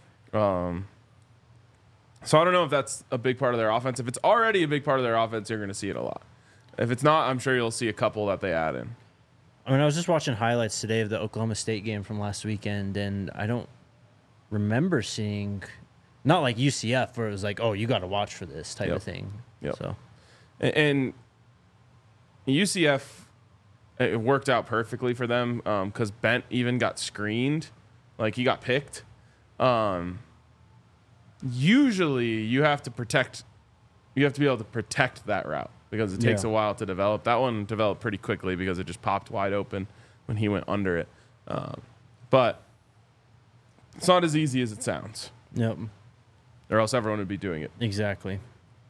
So I don't know if that's a big part of their offense. If it's already a big part of their offense, you're going to see it a lot. If it's not, I'm sure you'll see a couple that they add in. I mean, I was just watching highlights today of the Oklahoma State game from last weekend, and I don't remember seeing, not like UCF, where it was like, oh, you got to watch for this type of thing. Yep. So, and UCF, it worked out perfectly for them because Bent even got screened. Like, he got picked. Usually, you have to be able to protect that route because it takes a while to develop. That one developed pretty quickly because it just popped wide open when he went under it. But it's not as easy as it sounds. Yep. Or else everyone would be doing it. Exactly.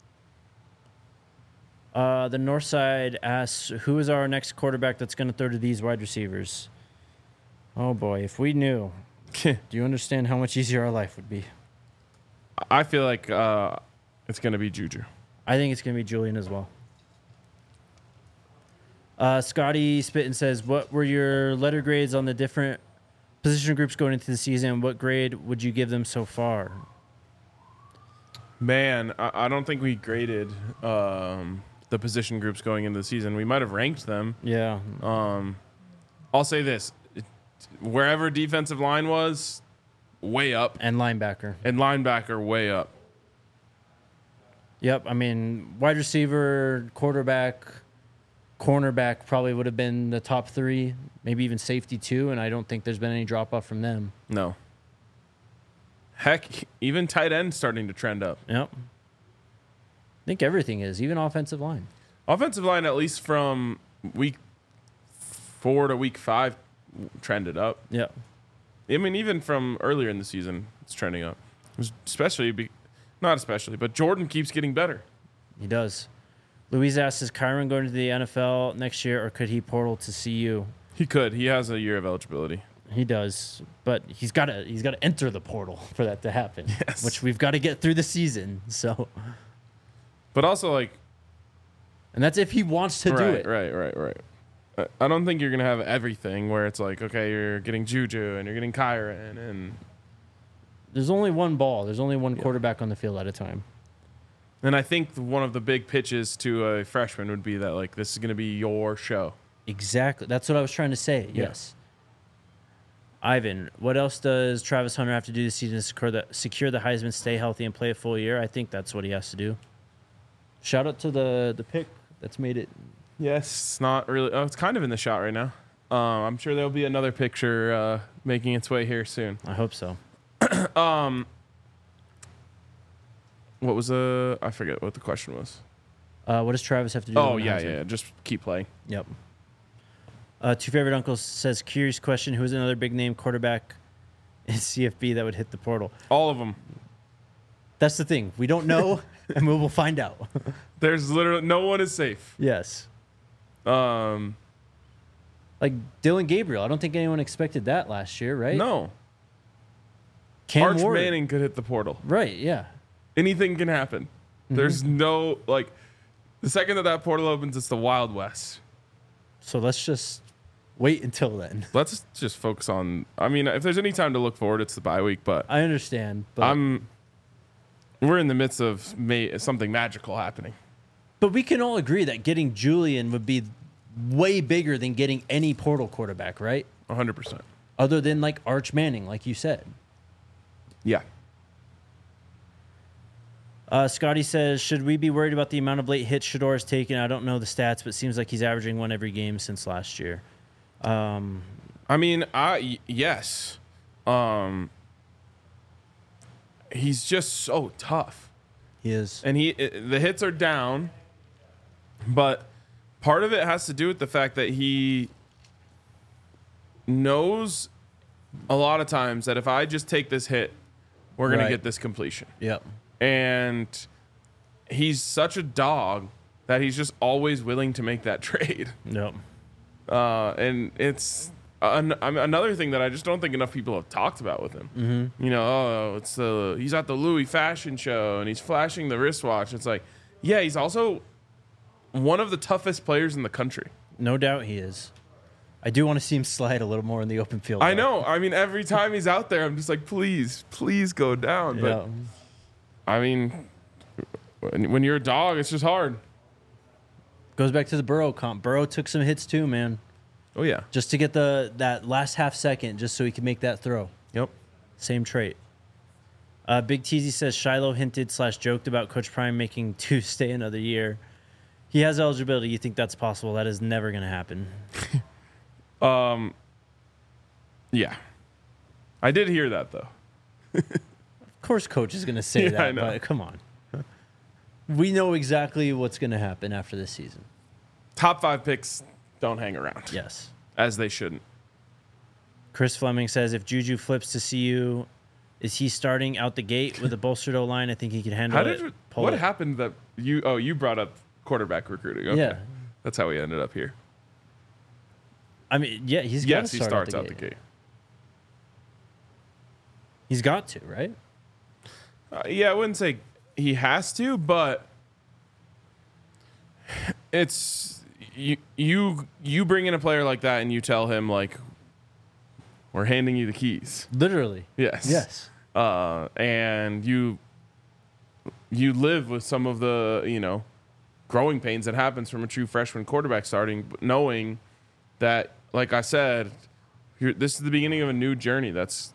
The North Side asks, who is our next quarterback that's going to throw to these wide receivers? Oh, boy, if we knew. Do you understand how much easier our life would be? I feel like it's going to be Juju. I think it's going to be Julian as well. Scotty Spittin says, what were your letter grades on the different position groups going into the season? What grade would you give them so far? Man, I don't think we graded the position groups going into the season. We might have ranked them. Yeah. I'll say this: wherever defensive line was, way up, And linebacker. and linebacker way up. Yep. I mean, wide receiver, quarterback, cornerback probably would have been the top 3, maybe even safety too. And I don't think there's been any drop off from them. No. Heck, even tight end starting to trend up. Yep. I think everything is, even offensive line. Offensive line, at least from week 4 to week 5, trended up. Yep. I mean, even from earlier in the season, it's trending up. Not especially, but Jordan keeps getting better. He does. Louise asks, is Kyron going to the NFL next year, or could he portal to CU? He could. He has a year of eligibility. He does, but he's got to enter the portal for that to happen. Yes. Which we've got to get through the season. So, But also, like, and that's if he wants to do it. Right. I don't think you're going to have everything where it's like, okay, you're getting Juju and you're getting Kyron. And There's only one ball. There's only one quarterback on the field at a time. I think one of the big pitches to a freshman would be that, like, this is going to be your show. Exactly. That's what I was trying to say. Yeah. Yes. Ivan, what else does Travis Hunter have to do this season to secure the Heisman, stay healthy, and play a full year? I think that's what he has to do. Shout out to the pick that's made it. Yes, it's not really. Oh, it's kind of in the shot right now. I'm sure there'll be another picture making its way here soon. I hope so. What was I forget what the question was. What does Travis have to do? Oh, to win the Heisman? yeah. Just keep playing. Yep. Two Favorite Uncles says, curious question, who is another big name quarterback in CFB that would hit the portal? All of them. That's the thing. We don't know, and we will find out. There's literally no one is safe. Yes. Um, Like Dylan Gabriel. I don't think anyone expected that last year, right? no. Cam Arch Ward. Manning could hit the portal. Right, yeah. Anything can happen. There's no, like, the second that portal opens, it's the Wild West. So let's just wait until then. Let's just focus on, I mean, if there's any time to look forward, it's the bye week, but I understand, but we're in the midst of something magical happening. but we can all agree that getting Julian would be way bigger than getting any portal quarterback, right? 100%. Other than like Arch Manning, like you said. Yeah. Scotty says, should we be worried about the amount of late hits Shedeur has taken? I don't know the stats, but it seems like he's averaging one every game since last year. I mean, yes. He's just so tough. He is. And the hits are down, but part of it has to do with the fact that he knows a lot of times that if I just take this hit, we're going Right. to get this completion. Yep. And he's such a dog that he's just always willing to make that trade. Yep. And it's another thing that I just don't think enough people have talked about with him. Mm-hmm. You know, he's at the Louis fashion show and he's flashing the wristwatch. It's like, yeah, he's also one of the toughest players in the country. No doubt he is. I do want to see him slide a little more in the open field. I though. know. I mean, every time he's out there, I'm just like, please go down. But Yeah. I mean, when you're a dog, it's just hard. Goes back to the Burrow comp. Burrow took some hits too, man. Oh yeah. Just to get that last half second, just so he could make that throw. Yep. Same trait. Big Teasy says Shiloh hinted / joked about Coach Prime making 2 stay another year. He has eligibility. You think that's possible? That is never going to happen. Yeah. I did hear that though. Of course, Coach is going to say Yeah, that, I know. but come on. We know exactly what's going to happen after this season. Top 5 picks don't hang around. Yes. As they shouldn't. Chris Fleming says if Juju flips to CU, is he starting out the gate with a bolstered O-line? I think he can handle it. What happened that you brought up quarterback recruiting? Okay. Yeah. That's how we ended up here. I mean, yeah, he's got Yes, to he starts out the gate. He's got to, right? Yeah, I wouldn't say he has to, but it's you bring in a player like that and you tell him like we're handing you the keys. Literally. Yes. Yes. And you live with some of the, growing pains that happens from a true freshman quarterback starting, but knowing that like I said, this is the beginning of a new journey. That's,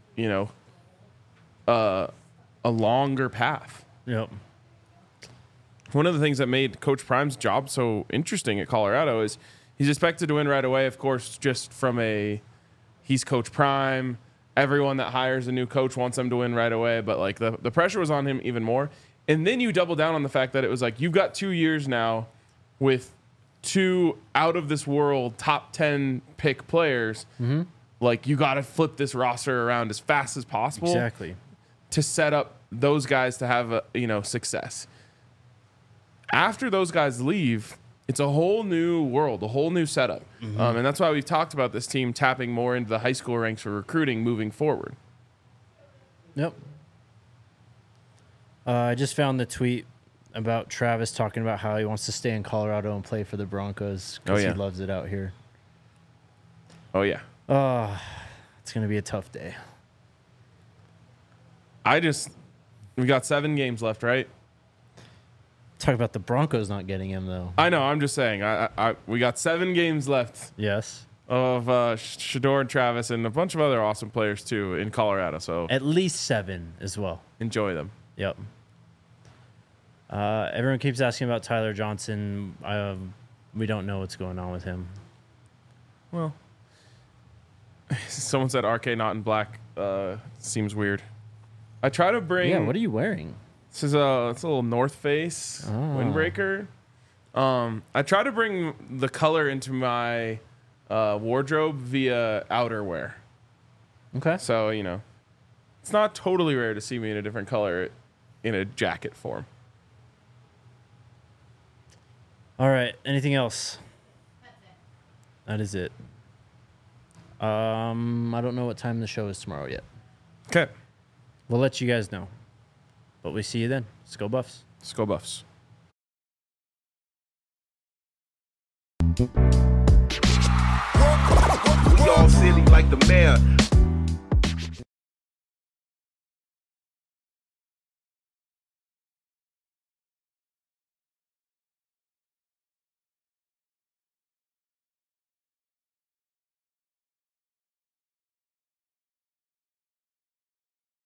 a longer path. Yep. One of the things that made Coach Prime's job so interesting at Colorado is he's expected to win right away, of course, just from he's Coach Prime. Everyone that hires a new coach wants him to win right away, but like the pressure was on him even more. And then you double down on the fact that it was like, you've got 2 years now with 2 out of this world top 10 pick players. Mm-hmm. Like, you got to flip this roster around as fast as possible. Exactly. To set up those guys to have success. After those guys leave, it's a whole new world, a whole new setup. Mm-hmm. And that's why we've talked about this team tapping more into the high school ranks for recruiting moving forward. Yep. I just found the tweet about Travis talking about how he wants to stay in Colorado and play for the Broncos because he loves it out here. Oh, yeah. It's going to be a tough day. We got 7 games left, right? Talk about the Broncos not getting him, though. I know. I'm just saying. We got 7 games left. Yes. Of Shedeur and Travis and a bunch of other awesome players, too, in Colorado. So at least 7 as well. Enjoy them. Yep. Everyone keeps asking about Tyler Johnson. We don't know what's going on with him. Well, someone said RK not in black seems weird. I try to bring... Yeah, what are you wearing? This is it's a little North Face windbreaker. I try to bring the color into my wardrobe via outerwear. Okay. So, it's not totally rare to see me in a different color in a jacket form. All right. Anything else? That's it. That is it. I don't know what time the show is tomorrow yet. Okay. We'll let you guys know. But we see you then. Let's go Buffs. Let's go Buffs. We all silly like the mayor.